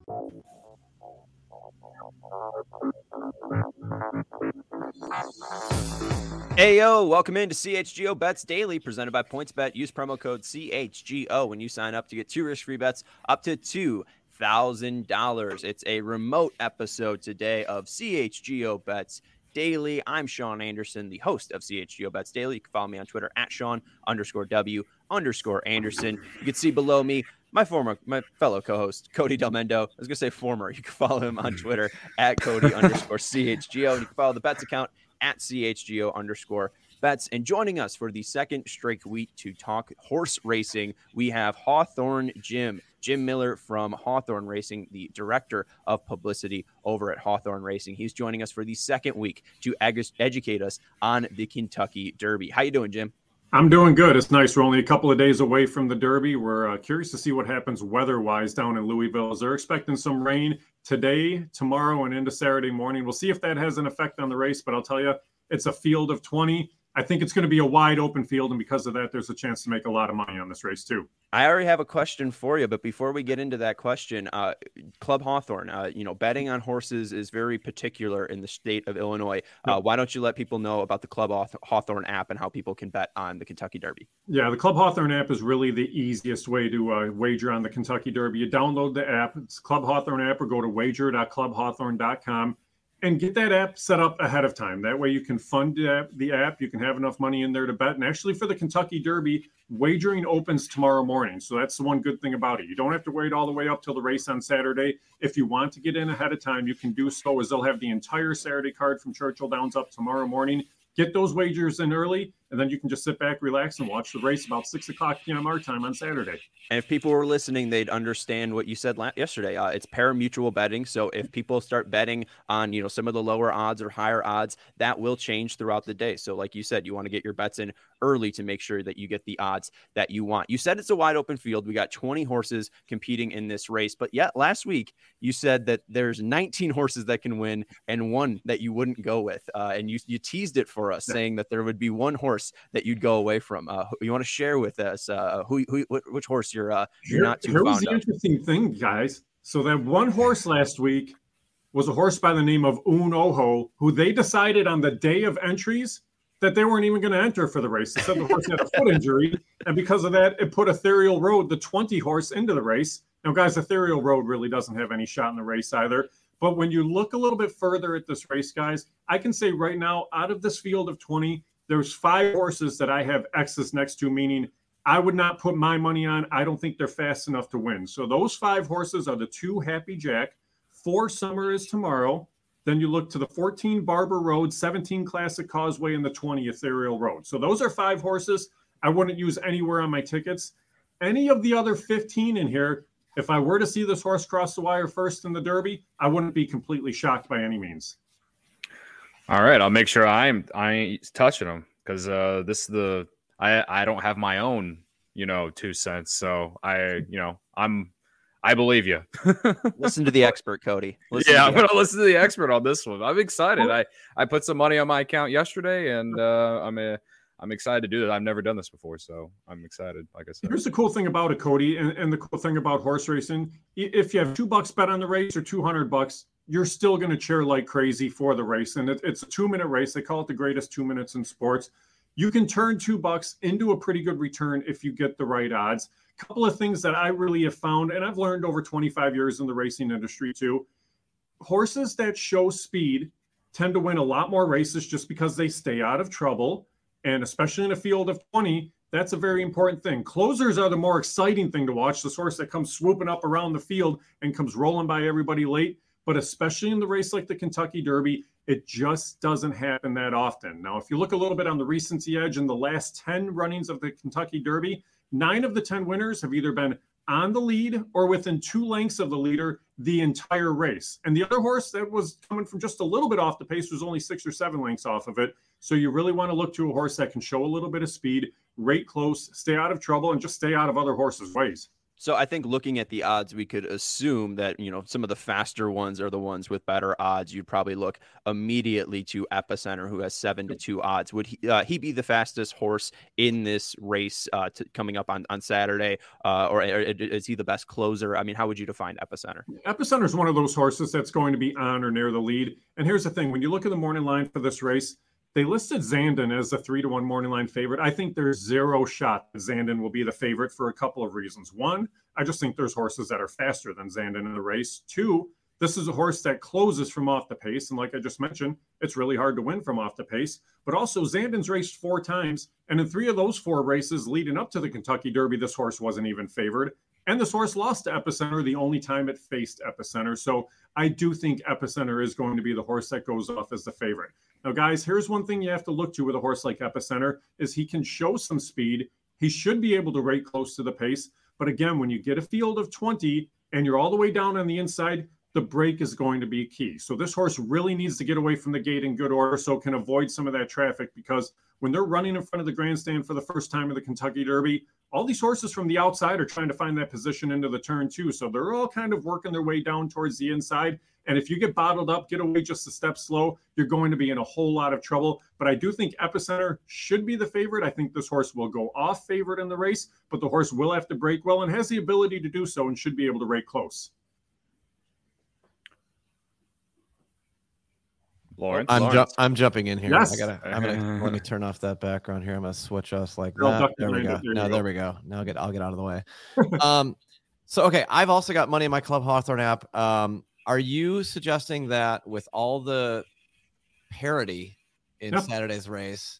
Ayo, welcome into CHGO Bets Daily, presented by PointsBet. Use promo code CHGO when you sign up to get 2 risk-free bets up to $2,000. It's a remote episode today of CHGO Bets Daily. I'm Sean Anderson, the host of CHGO Bets Daily. You can follow me on Twitter at Sean_W_Anderson. You can see below me my fellow co-host, Cody Del Mendo. I was going to say former. You can follow him on Twitter at Cody_CHGO. And you can follow the Bets account at CHGO_Bets. And joining us for the second straight week to talk horse racing, we have Hawthorne Jim Miller from Hawthorne Racing, the director of publicity over at Hawthorne Racing. He's joining us for the second week to educate us on the Kentucky Derby. How you doing, Jim? I'm doing good. It's nice. We're only a couple of days away from the Derby. We're curious to see what happens weather-wise down in Louisville. They're expecting some rain today, tomorrow, and into Saturday morning. We'll see if that has an effect on the race, but I'll tell you, it's a field of 20. I think it's going to be a wide open field, and because of that, there's a chance to make a lot of money on this race too. I already have a question for you, but before we get into that question, Club Hawthorne, betting on horses is very particular in the state of Illinois. Why don't you let people know about the Club Hawthorne app and how people can bet on the Kentucky Derby? Yeah, the Club Hawthorne app is really the easiest way to wager on the Kentucky Derby. You download the app, it's Club Hawthorne app, or go to wager.clubhawthorne.com. and get that app set up ahead of time. That way you can fund the app. You can have enough money in there to bet. And actually for the Kentucky Derby, wagering opens tomorrow morning. So that's the one good thing about it. You don't have to wait all the way up till the race on Saturday. If you want to get in ahead of time, you can do so, as they'll have the entire Saturday card from Churchill Downs up tomorrow morning. Get those wagers in early, and then you can just sit back, relax, and watch the race about 6 o'clock p.m. our time on Saturday. And if people were listening, they'd understand what you said yesterday. It's pari-mutuel betting. So if people start betting on, some of the lower odds or higher odds, that will change throughout the day. So like you said, you want to get your bets in early to make sure that you get the odds that you want. You said it's a wide open field. We got 20 horses competing in this race. But yet last week, you said that there's 19 horses that can win and one that you wouldn't go with. And you teased it for us, saying that there would be one horse that you'd go away from. You want to share with us which horse you're not too fond of? Here's the interesting thing, guys. So that one horse last week was a horse by the name of Un-Oho, who they decided on the day of entries that they weren't even going to enter for the race. They said the horse had a foot injury, and because of that, it put Ethereal Road, the 20 horse, into the race. Now, guys, Ethereal Road really doesn't have any shot in the race either. But when you look a little bit further at this race, guys, I can say right now, out of this field of 20, there's 5 horses that I have X's next to, meaning I would not put my money on. I don't think they're fast enough to win. So those 5 horses are the 2 Happy Jack, 4 Summer is Tomorrow. Then you look to the 14 Barber Road, 17 Classic Causeway, and the 20 Ethereal Road. So those are 5 horses I wouldn't use anywhere on my tickets. Any of the other 15 in here, if I were to see this horse cross the wire first in the Derby, I wouldn't be completely shocked by any means. All right, I'll make sure I ain't touching them, because I don't have my own 2 cents. So I believe you. Listen to the expert, Cody. I'm going to listen to the expert on this one. I'm excited. I put some money on my account yesterday, and I'm excited to do that. I've never done this before, so I'm excited. Like I said, here's the cool thing about it, Cody, and the cool thing about horse racing: if you have $2 bet on the race or $200, you're still going to cheer like crazy for the race. And it's a 2-minute race. They call it the greatest 2 minutes in sports. You can turn $2 into a pretty good return if you get the right odds. A couple of things that I really have found, and I've learned over 25 years in the racing industry too, horses that show speed tend to win a lot more races just because they stay out of trouble. And especially in a field of 20, that's a very important thing. Closers are the more exciting thing to watch. This horse that comes swooping up around the field and comes rolling by everybody late. But especially in the race like the Kentucky Derby, it just doesn't happen that often. Now, if you look a little bit on the recency edge in the last 10 runnings of the Kentucky Derby, 9 of the 10 winners have either been on the lead or within 2 lengths of the leader the entire race. And the other horse that was coming from just a little bit off the pace was only 6 or 7 lengths off of it. So you really want to look to a horse that can show a little bit of speed, rate close, stay out of trouble, and just stay out of other horses' ways. So I think looking at the odds, we could assume that, some of the faster ones are the ones with better odds. You'd probably look immediately to Epicenter, who has 7-2 odds. Would he be the fastest horse in this race coming up on Saturday? Or is he the best closer? I mean, how would you define Epicenter? Epicenter is one of those horses that's going to be on or near the lead. And here's the thing. When you look at the morning line for this race, they listed Zandon as a 3-1 morning line favorite. I think there's zero shot that Zandon will be the favorite for a couple of reasons. One, I just think there's horses that are faster than Zandon in the race. Two, this is a horse that closes from off the pace. And like I just mentioned, it's really hard to win from off the pace. But also Zandon's raced 4 times. And in 3 of those 4 races leading up to the Kentucky Derby, this horse wasn't even favored. And this horse lost to Epicenter the only time it faced Epicenter. So I do think Epicenter is going to be the horse that goes off as the favorite. Now, guys, here's one thing you have to look to with a horse like Epicenter is he can show some speed. He should be able to rate close to the pace. But again, when you get a field of 20 and you're all the way down on the inside, the break is going to be key. So this horse really needs to get away from the gate in good order so it can avoid some of that traffic, because when they're running in front of the grandstand for the first time of the Kentucky Derby, all these horses from the outside are trying to find that position into the turn too. So they're all kind of working their way down towards the inside. And if you get bottled up, get away just a step slow, you're going to be in a whole lot of trouble. But I do think Epicenter should be the favorite. I think this horse will go off favorite in the race, but the horse will have to break well and has the ability to do so and should be able to rate close. Lawrence, I'm jumping in here. Yes. Let me turn off that background here. I'm gonna switch us like that. There we go. There we go. Now I'll get out of the way. So okay, I've also got money in my Club Hawthorne app. Are you suggesting that with all the parity in Saturday's race,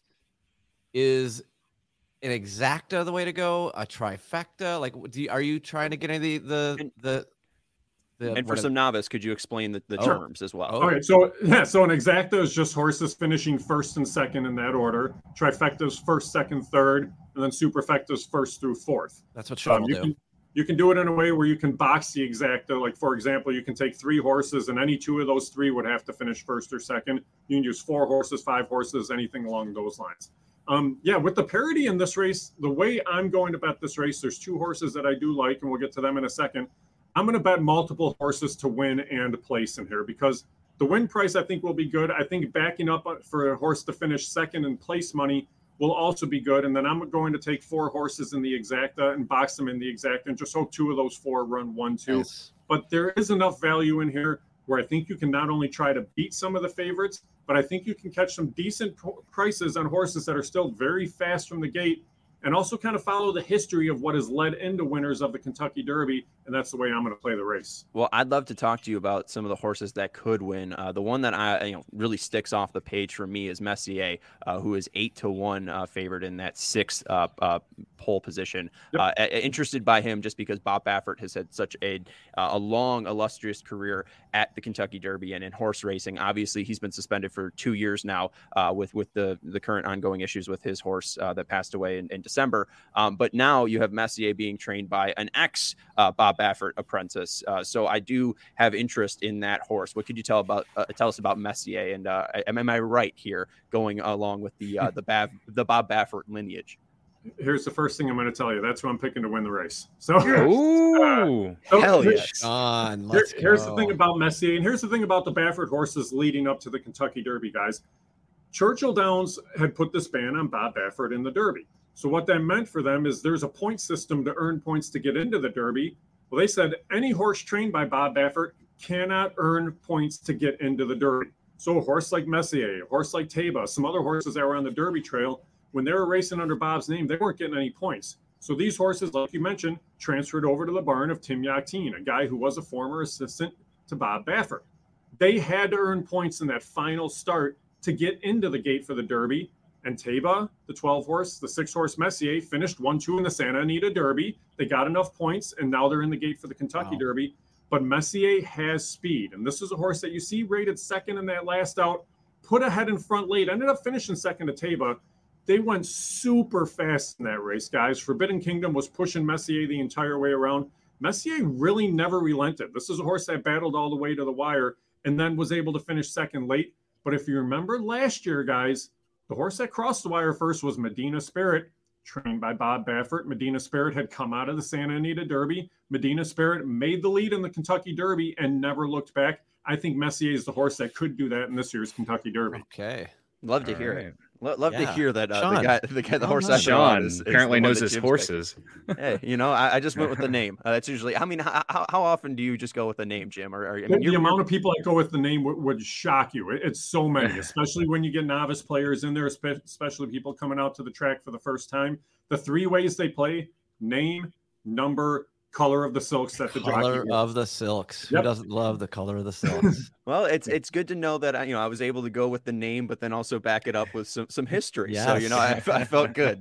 is an exacta the way to go? A trifecta? Like, are you trying to get any of the and for some novice, could you explain the terms as well? Okay, so an exacta is just horses finishing first and second in that order. Trifecta is first, second, third, and then superfecta is first through fourth. That's what Sean will do. You can do it in a way where you can box the exacta. Like, for example, you can take 3 horses, and any 2 of those 3 would have to finish first or second. You can use 4 horses, 5 horses, anything along those lines. With the parity in this race, the way I'm going to bet this race, there's 2 horses that I do like, and we'll get to them in a second. I'm going to bet multiple horses to win and place in here because the win price I think will be good. I think backing up for a horse to finish second in place money will also be good. And then I'm going to take 4 horses in the exacta and box them in the exacta and just hope 2 of those 4 run 1-2. Yes. But there is enough value in here where I think you can not only try to beat some of the favorites, but I think you can catch some decent prices on horses that are still very fast from the gate, and also kind of follow the history of what has led into winners of the Kentucky Derby. And that's the way I'm going to play the race. Well, I'd love to talk to you about some of the horses that could win. The one that I really sticks off the page for me is Messier, who is 8-1 favored in that 6th pole position. Yep. Interested by him just because Bob Baffert has had such a long, illustrious career at the Kentucky Derby and in horse racing. Obviously, he's been suspended for 2 years now with the current ongoing issues with his horse that passed away in December. But now you have Messier being trained by an ex-Bob Baffert apprentice. So I do have interest in that horse. What could you tell us about Messier? And am I right here going along with the Bob Baffert lineage? Here's the first thing I'm going to tell you. That's who I'm picking to win the race. So, hell yes. Here's the thing about Messier, and here's the thing about the Baffert horses leading up to the Kentucky Derby, guys. Churchill Downs had put this ban on Bob Baffert in the Derby. So what that meant for them is there's a point system to earn points to get into the Derby. Well, they said any horse trained by Bob Baffert cannot earn points to get into the Derby. So a horse like Messier, a horse like Taba, some other horses that were on the Derby trail, when they were racing under Bob's name, they weren't getting any points. So these horses, like you mentioned, transferred over to the barn of Tim Yakteen, a guy who was a former assistant to Bob Baffert. They had to earn points in that final start to get into the gate for the Derby. And Taba, the 12-horse, the 6-horse Messier, finished 1-2 in the Santa Anita Derby. They got enough points, and now they're in the gate for the Kentucky Derby. But Messier has speed, and this is a horse that you see rated second in that last out, put ahead in front late, ended up finishing second to Taba. They went super fast in that race, guys. Forbidden Kingdom was pushing Messier the entire way around. Messier really never relented. This is a horse that battled all the way to the wire and then was able to finish second late. But if you remember last year, guys, the horse that crossed the wire first was Medina Spirit. trained by Bob Baffert. Medina Spirit had come out of the Santa Anita Derby. Medina Spirit made the lead in the Kentucky Derby and never looked back. I think Messier is the horse that could do that in this year's Kentucky Derby. Okay. Love to hear it. Love to hear that the horse Sean is apparently knows his horses. Hey, I just went with the name. That's usually. I mean, how often do you just go with the name, Jim? The amount of people that go with the name would shock you. It's so many, especially when you get novice players in there, especially people coming out to the track for the first time. The 3 ways they play: name, number, color of the silks that the color of the silks. Yep. Who doesn't love the color of the silks? Well, it's good to know that I was able to go with the name, but then also back it up with some history. Yes. So I felt good.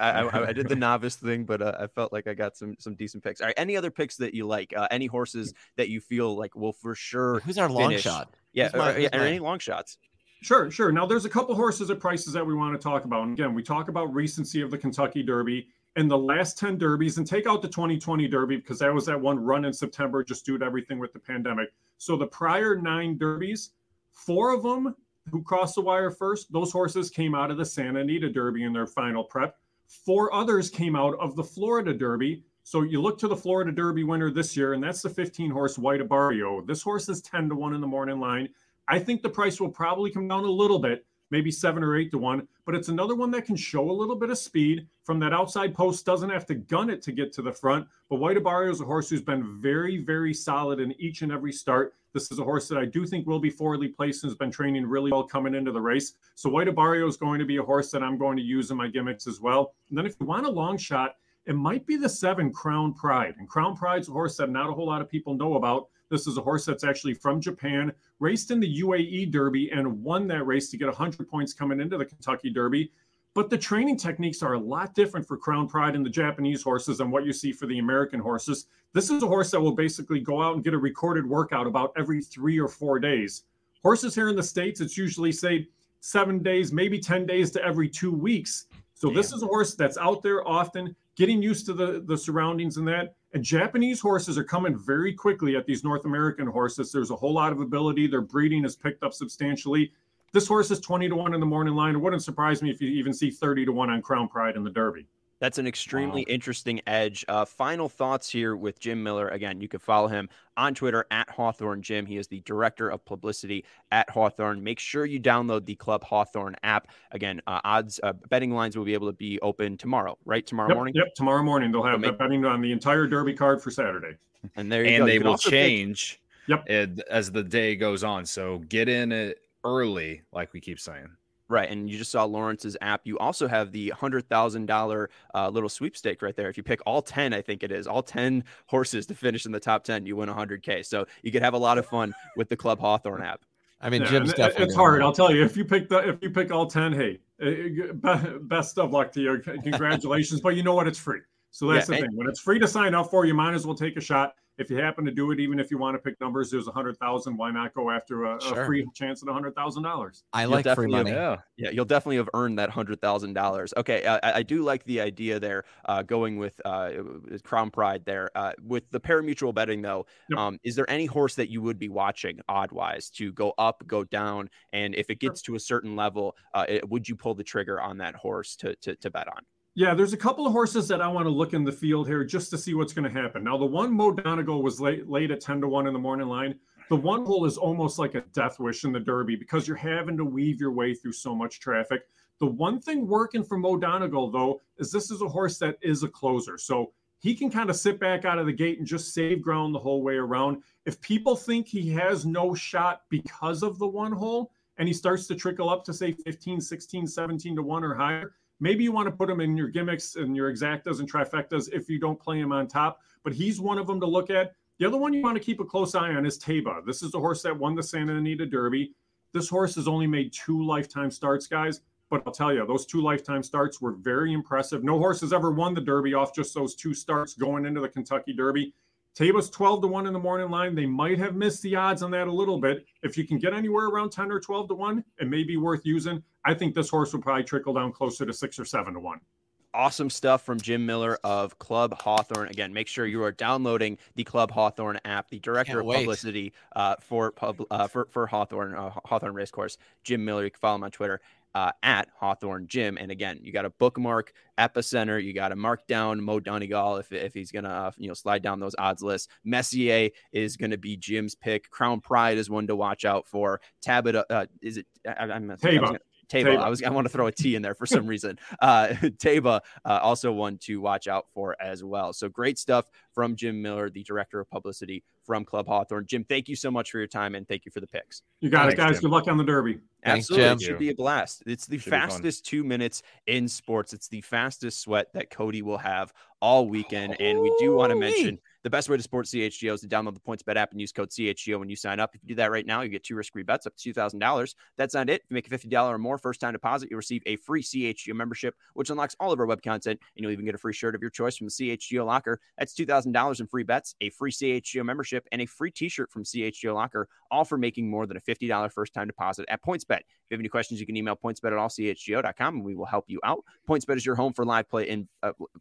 I did the novice thing, but I felt like I got some decent picks. All right, any other picks that you like? Any horses that you feel like will for sure? Who's our long shot? Yeah, any long shots? Sure. Now there's a couple horses at prices that we want to talk about. And again, we talk about recency of the Kentucky Derby. In the last 10 derbies, and take out the 2020 Derby because that was that one run in September just due to everything with the pandemic. So the prior 9 derbies, 4 of them who crossed the wire first, those horses came out of the Santa Anita Derby in their final prep. 4 others came out of the Florida Derby. So you look to the Florida Derby winner this year, and that's the 15-horse White Abarrio. This horse is 10-1 in the morning line. I think the price will probably come down a little bit, maybe 7 or 8-1, but it's another one that can show a little bit of speed from that outside post, doesn't have to gun it to get to the front. But White Abarrio is a horse who's been very, very solid in each and every start. This is a horse that I do think will be forwardly placed and has been training really well coming into the race. So White Abarrio is going to be a horse that I'm going to use in my gimmicks as well. And then if you want a long shot, it might be the 7 Crown Pride. And Crown Pride's a horse that not a whole lot of people know about. This is a horse that's actually from Japan, raced in the UAE Derby and won that race to get 100 points coming into the Kentucky Derby. But the training techniques are a lot different for Crown Pride and the Japanese horses than what you see for the American horses. This is a horse that will basically go out and get a recorded workout about every 3 or 4 days. Horses here in the States, it's usually, say, 7 days, maybe 10 days to every 2 weeks. So This is a horse that's out there often, getting used to the surroundings and that. And Japanese horses are coming very quickly at these North American horses. There's a whole lot of ability. Their breeding has picked up substantially. This horse is 20-1 in the morning line. It wouldn't surprise me if you even see 30-1 on Crown Pride in the Derby. That's an extremely interesting edge. Final thoughts here with Jim Miller. Again, you can follow him on Twitter at Hawthorne Jim. He is the director of publicity at Hawthorne. Make sure you download the Club Hawthorne app. Again, betting lines will be able to be open tomorrow, right? Tomorrow morning? Yep, tomorrow morning. They'll have betting on the entire Derby card for Saturday. And there you go. They will change as the day goes on. So get in it early, like we keep saying. Right, and you just saw Lawrence's app. You also have the $100,000 little sweepstake right there. If you pick all 10, I think it is, all 10 horses to finish in the top 10, you win $100K. So you could have a lot of fun with the Club Hawthorne app. I mean, Jim's definitely. It's hard. I'll tell you. If you pick all 10, hey, best of luck to you. Congratulations. But you know what? It's free. So that's the thing. When it's free to sign up for, you might as well take a shot. If you happen to do it, even if you want to pick numbers, there's 100,000. Why not go after a free chance at $100,000? I like free money. Yeah, you'll definitely have earned that $100,000. Okay, I do like the idea there, going with Crown Pride there. With the parimutuel betting, though, is there any horse that you would be watching odd-wise to go up, go down, and if it gets to a certain level, would you pull the trigger on that horse to bet on? Yeah, there's a couple of horses that I want to look in the field here just to see what's going to happen. Now, the one Mo Donegal was late at 10-1 in the morning line. The one hole is almost like a death wish in the Derby because you're having to weave your way through so much traffic. The one thing working for Mo Donegal, though, is this is a horse that is a closer. So he can kind of sit back out of the gate and just save ground the whole way around. If people think he has no shot because of the one hole and he starts to trickle up to, say, 15, 16, 17-1 or higher, maybe you want to put him in your gimmicks and your exactas and trifectas if you don't play him on top, but he's one of them to look at. The other one you want to keep a close eye on is Taba. This is the horse that won the Santa Anita Derby. This horse has only made 2 lifetime starts, guys, but I'll tell you, those 2 lifetime starts were very impressive. No horse has ever won the Derby off just those 2 starts going into the Kentucky Derby. Taba's 12-1 in the morning line. They might have missed the odds on that a little bit. If you can get anywhere around 10 or 12-1, it may be worth using. I think this horse will probably trickle down closer to 6 or 7-1. Awesome stuff from Jim Miller of Club Hawthorne. Again, make sure you are downloading the Club Hawthorne app. The director of publicity for Hawthorne Racecourse, Jim Miller. You can follow him on Twitter. at Hawthorne Gym. And again, you got to bookmark Epicenter. You got to mark down Mo Donegal if he's going to, slide down those odds lists. Messier is going to be Jim's pick. Crown Pride is one to watch out for. Tabata, is it? Taba. I want to throw a T in there for some reason. Taba, also one to watch out for as well. So great stuff from Jim Miller, the director of publicity from Club Hawthorne. Jim, thank you so much for your time, and thank you for the picks. You got it, guys. Jim. Good luck on the Derby. Absolutely. It should be a blast. It's the fastest 2 minutes in sports. It's the fastest sweat that Cody will have all weekend. And we do want to mention the best way to support CHGO is to download the PointsBet app and use code CHGO when you sign up. If you do that right now, you get 2 risk-free bets up to $2,000. That's not it. If you make a $50 or more first-time deposit, you'll receive a free CHGO membership, which unlocks all of our web content, and you'll even get a free shirt of your choice from the CHGO Locker. That's $2,000 in free bets, a free CHGO membership, and a free t-shirt from CHGO Locker, all for making more than a $50 first-time deposit at PointsBet. If you have any questions, you can email pointsbet@allchgo.com, and we will help you out. PointsBet is your home for live play in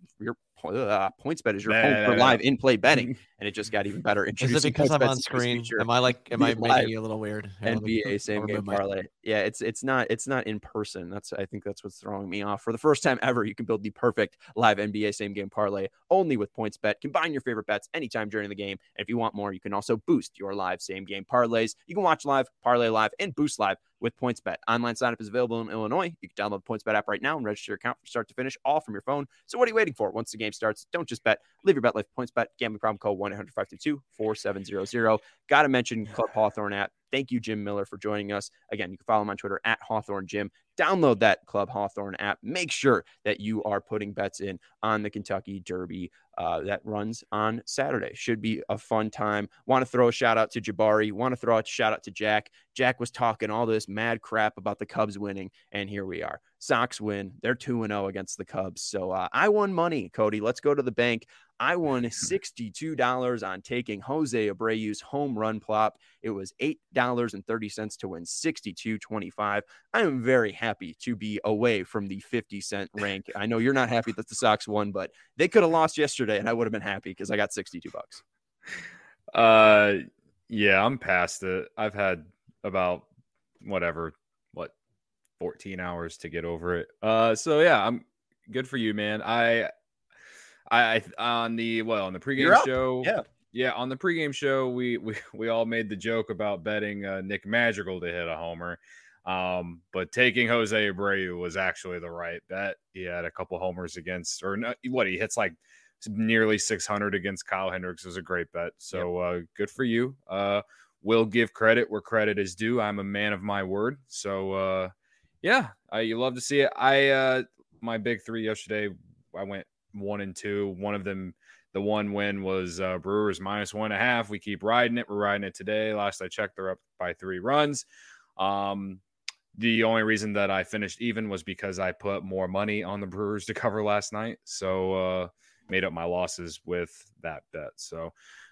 PointsBet is your home for live in-play betting, and it just got even better. Is it because I'm on screen? Am I making you a little weird? NBA same game parlay. Yeah, it's not in person. I think that's what's throwing me off. For the first time ever, you can build the perfect live NBA same game parlay only with PointsBet. Combine your favorite bets anytime during the game, and if you want more, you can also boost your live same game parlays. You can watch live, parlay live, and boost live with PointsBet. Online sign-up is available in Illinois. You can download the PointsBet app right now and register your account from start to finish, all from your phone. So what are you waiting for? Once the game starts, don't just bet. Live your bet life. PointsBet. Gambling problem code 1-800-522-4700. Got to mention Club Hawthorne app. Thank you, Jim Miller, for joining us. Again, you can follow him on Twitter at Hawthorne Gym. Download that Club Hawthorne app. Make sure that you are putting bets in on the Kentucky Derby that runs on Saturday. Should be a fun time. Want to throw a shout out to Jabari. Want to throw a shout out to Jack. Jack was talking all this mad crap about the Cubs winning, and here we are. Sox win. They're 2-0 against the Cubs. So I won money, Cody. Let's go to the bank. I won $62 on taking Jose Abreu's home run plop. It was $8.30 to win $62.25. I am very happy to be away from the 50-cent rank. I know you're not happy that the Sox won, but they could have lost yesterday, and I would have been happy because I got $62. Yeah, I'm past it. I've had about 14 hours to get over it. So yeah, I'm good for you, man. On the pregame show. Yeah. On the pregame show, we all made the joke about betting Nick Madrigal to hit a homer. But taking Jose Abreu was actually the right bet. He had a couple homers against, he hits like nearly 600 against Kyle Hendricks. It was a great bet. So good for you. We'll give credit where credit is due. I'm a man of my word. So you love to see it. My big three yesterday, I went 1 and 2. One of them, the one win was Brewers -1.5. We keep riding it. We're riding it today. Last I checked, they're up by 3 runs. The only reason that I finished even was because I put more money on the Brewers to cover last night. So made up my losses with that bet. So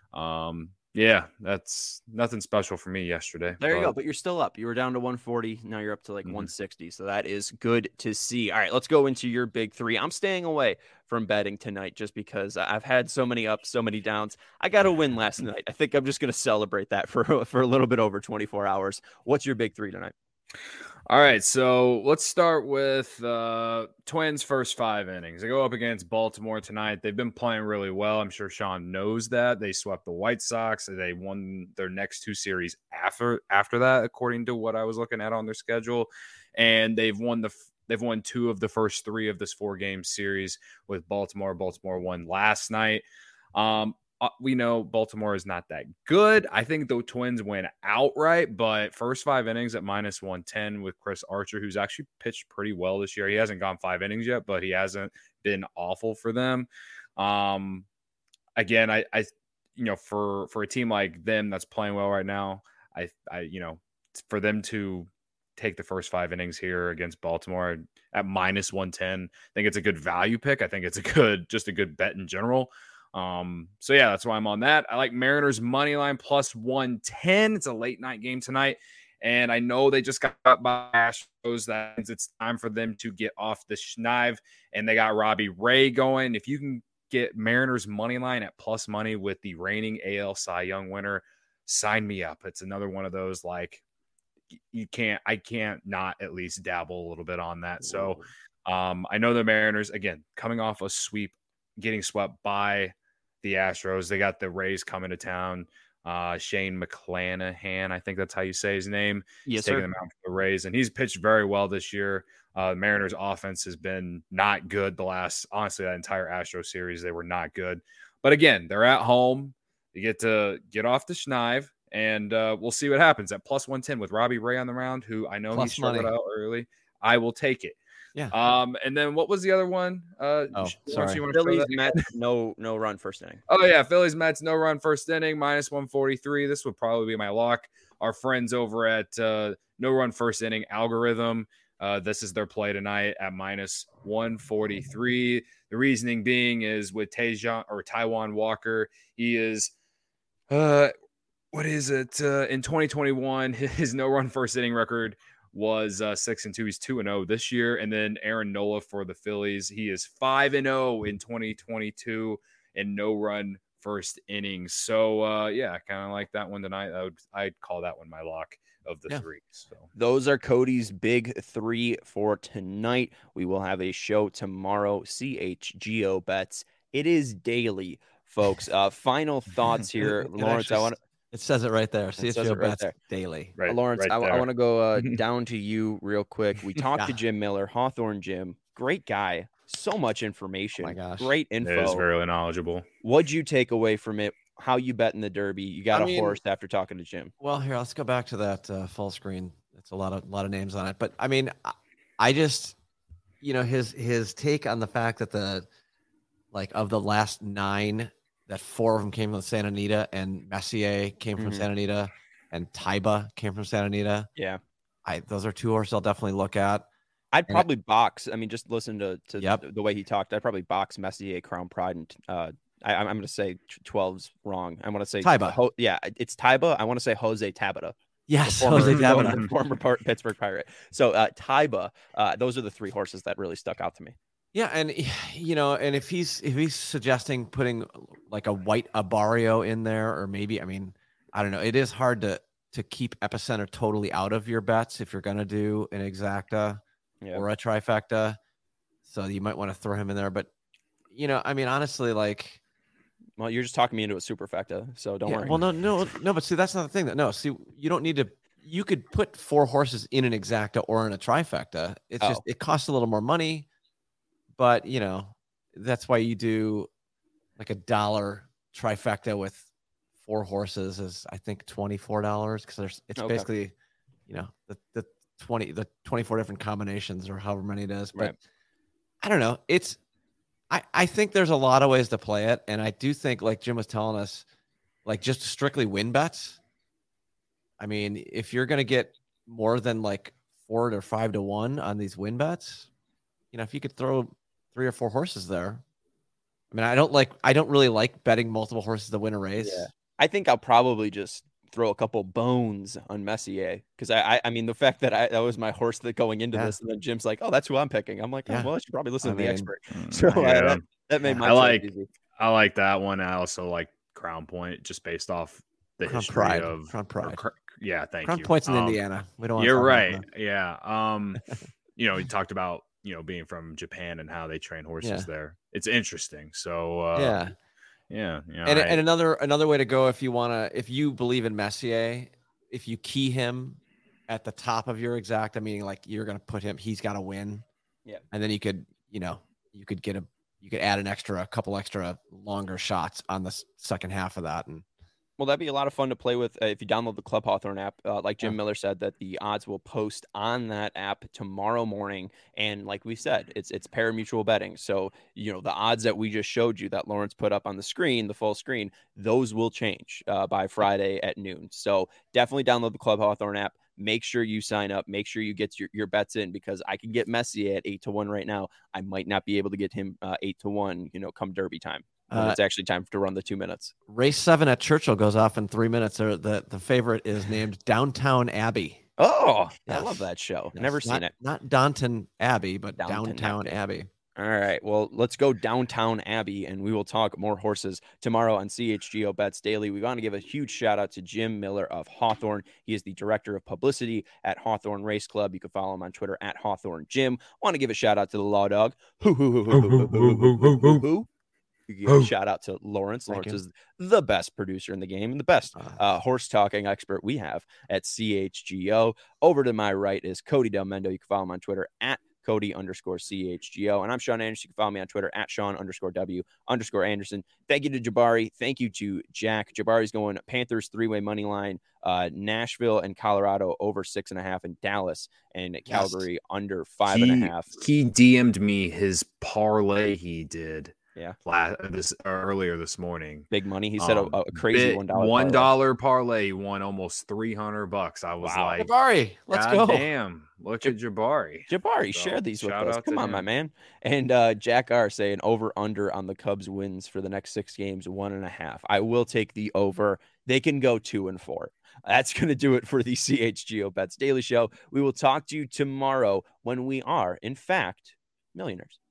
that's nothing special for me yesterday. There you go. But you're still up. You were down to 140. Now you're up to 160. So that is good to see. All right, let's go into your big three. I'm staying away from betting tonight just because I've had so many ups, so many downs. I got a win last night. I think I'm just going to celebrate that for a little bit over 24 hours. What's your big three tonight? All right, so let's start with Twins' first 5 innings. They go up against Baltimore tonight. They've been playing really well. I'm sure Sean knows that. They swept the White Sox. They won their next 2 series after that, according to what I was looking at on their schedule. And they've won 2 of the first 3 of this 4-game series with Baltimore. Baltimore won last night. We know Baltimore is not that good. I think the Twins win outright, but first 5 innings at -110 with Chris Archer, who's actually pitched pretty well this year. He hasn't gone 5 innings yet, but he hasn't been awful for them. Again, I for a team like them that's playing well right now, for them to take the first 5 innings here against Baltimore at -110, I think it's a good value pick. I think it's just a good bet in general. That's why I'm on that. I like Mariners money line +110. It's a late night game tonight. And I know they just got by Astros. That means it's time for them to get off the schneid. And they got Robbie Ray going. If you can get Mariners money line at plus money with the reigning AL Cy Young winner, sign me up. It's another one of those, like, I can't not at least dabble a little bit on that. So I know the Mariners, again, coming off a sweep, getting swept by the Astros. They got the Rays coming to town. Shane McClanahan, I think that's how you say his name. Yes, he's taking them out for the Rays, and he's pitched very well this year. Mariners offense has been not good honestly, that entire Astro series. They were not good. But again, they're at home. You get to get off the schneid, and we'll see what happens at plus 110 with Robbie Ray on the mound, who I know plus he struggled out early. I will take it. Yeah. And then what was the other one? Sorry. Phillies Mets, no run first inning. Oh yeah, Phillies Mets, no run first inning, minus 143. This would probably be my lock. Our friends over at No Run First Inning Algorithm. This is their play tonight at minus 143. The reasoning being is with Taijuan Walker, he is what is it? In 2021, his no run first inning record was 6-2. He's 2-0 this year. And then Aaron Nola for the Phillies. He is 5-0 in 2022 and no run first innings. So yeah, kind of like that one tonight. I'd call that one my lock of the three. So those are Cody's big three for tonight. We will have a show tomorrow. CHGO bets. It is daily, folks. Final thoughts here, Lawrence. It says it right there. CHGO bets daily. Right, Lawrence, I want to go down to you real quick. We talked to Jim Miller, Hawthorne Jim. Great guy. So much information. Oh my gosh. Great info. It is very knowledgeable. What'd you take away from it? How you bet in the Derby? You got a horse after talking to Jim. Well, here, let's go back to that full screen. It's a lot of names on it. But I mean, I just, his take on the fact that of the last 9, that 4 of them came from Santa Anita, and Messier came from Santa Anita, and Taiba came from Santa Anita. Yeah. Those are 2 horses I'll definitely look at. I'd probably box. I mean, just listen to the way he talked. I'd probably box Messier, Crown Pride, and I'm going to say 12's wrong. I want to say Taiba. It's Taiba. I want to say Jose Tabata. Yes, Jose Tabata, former Pittsburgh Pirate. So Taiba. Those are the 3 horses that really stuck out to me. Yeah, and and if he's suggesting putting like a white Abarrio in there, or maybe, I mean, I don't know. It is hard to keep Epicenter totally out of your bets if you're going to do an exacta or a trifecta. So you might want to throw him in there, but I mean, honestly, like. Well, you're just talking me into a superfecta, so don't worry. Well, no, but see, that's not the thing. You don't need to. You could put 4 horses in an exacta or in a trifecta. It's just it costs a little more money, but that's why you do like $1 trifecta with 4 horses is I think $24 because it's basically the 24 different combinations or however many it is. But right. I don't know. I think there's a lot of ways to play it. And I do think, like Jim was telling us, like just strictly win bets. I mean, if you're going to get more than like 4 or 5 to 1 on these win bets, if you could throw 3 or 4 horses there. I mean, I don't really like betting multiple horses to win a race. Yeah. I think I'll probably just throw a couple bones on Messier because I mean the fact that that was my horse that going into this, and then Jim's like, oh, that's who I'm picking. I'm like, well, I should probably listen to the expert. So that made my easy. I like that one. I also like Crown Point just based off the Crown history Pride. of Crown Pride. Thank Crown you. Point's in Indiana. We don't. You're right. Yeah. You talked about being from Japan and how they train horses there. It's interesting. So Yeah. And another way to go if you believe in Messier, if you key him at the top of your exacta, meaning like you're going to put him, he's got to win. Yeah. And then you could add a couple extra longer shots on the second half of that. And well, that'd be a lot of fun to play with if you download the Club Hawthorne app. Like Jim Miller said, that the odds will post on that app tomorrow morning. And like we said, it's pari-mutuel betting. So, the odds that we just showed you that Lawrence put up on the screen, the full screen, those will change by Friday at noon. So definitely download the Club Hawthorne app. Make sure you sign up. Make sure you get your bets in because I can get Messier at 8-1 right now. I might not be able to get him 8-1, come Derby time. It's actually time to run the 2 minutes. Race 7 at Churchill goes off in 3 minutes. The favorite is named Downtown Abbey. Oh, yes. I love that show. Yes. Never seen it. Not Downton Abbey, but Downtown Abbey. All right. Well, let's go downtown Abbey, and we will talk more horses tomorrow on CHGO Bets Daily. We want to give a huge shout out to Jim Miller of Hawthorne. He is the director of publicity at Hawthorne Race Club. You can follow him on Twitter at Hawthorne Jim. Want to give a shout out to the Law Dog. Give a shout out to Lawrence. Lawrence is the best producer in the game and the best horse talking expert we have at CHGO. Over to my right is Cody Del Mendo. You can follow him on Twitter at Cody_CHGO. And I'm Sean Anderson. You can follow me on Twitter at Sean_W_Anderson. Thank you to Jabari. Thank you to Jack. Jabari's going Panthers 3-way money line, Nashville and Colorado over 6.5, and Dallas and Calgary under 5.5. He DM'd me his parlay he did. Yeah. Earlier this morning. Big money. He said a crazy $1 parlay won almost $300. I was like, Jabari, let's go. Damn. Look at Jabari. Jabari, share these with us. Come on, my man. And Jack R saying over under on the Cubs wins for the next 6 games, 1.5. I will take the over. They can go 2-4. That's going to do it for the CHGO Bets Daily Show. We will talk to you tomorrow when we are, in fact, millionaires.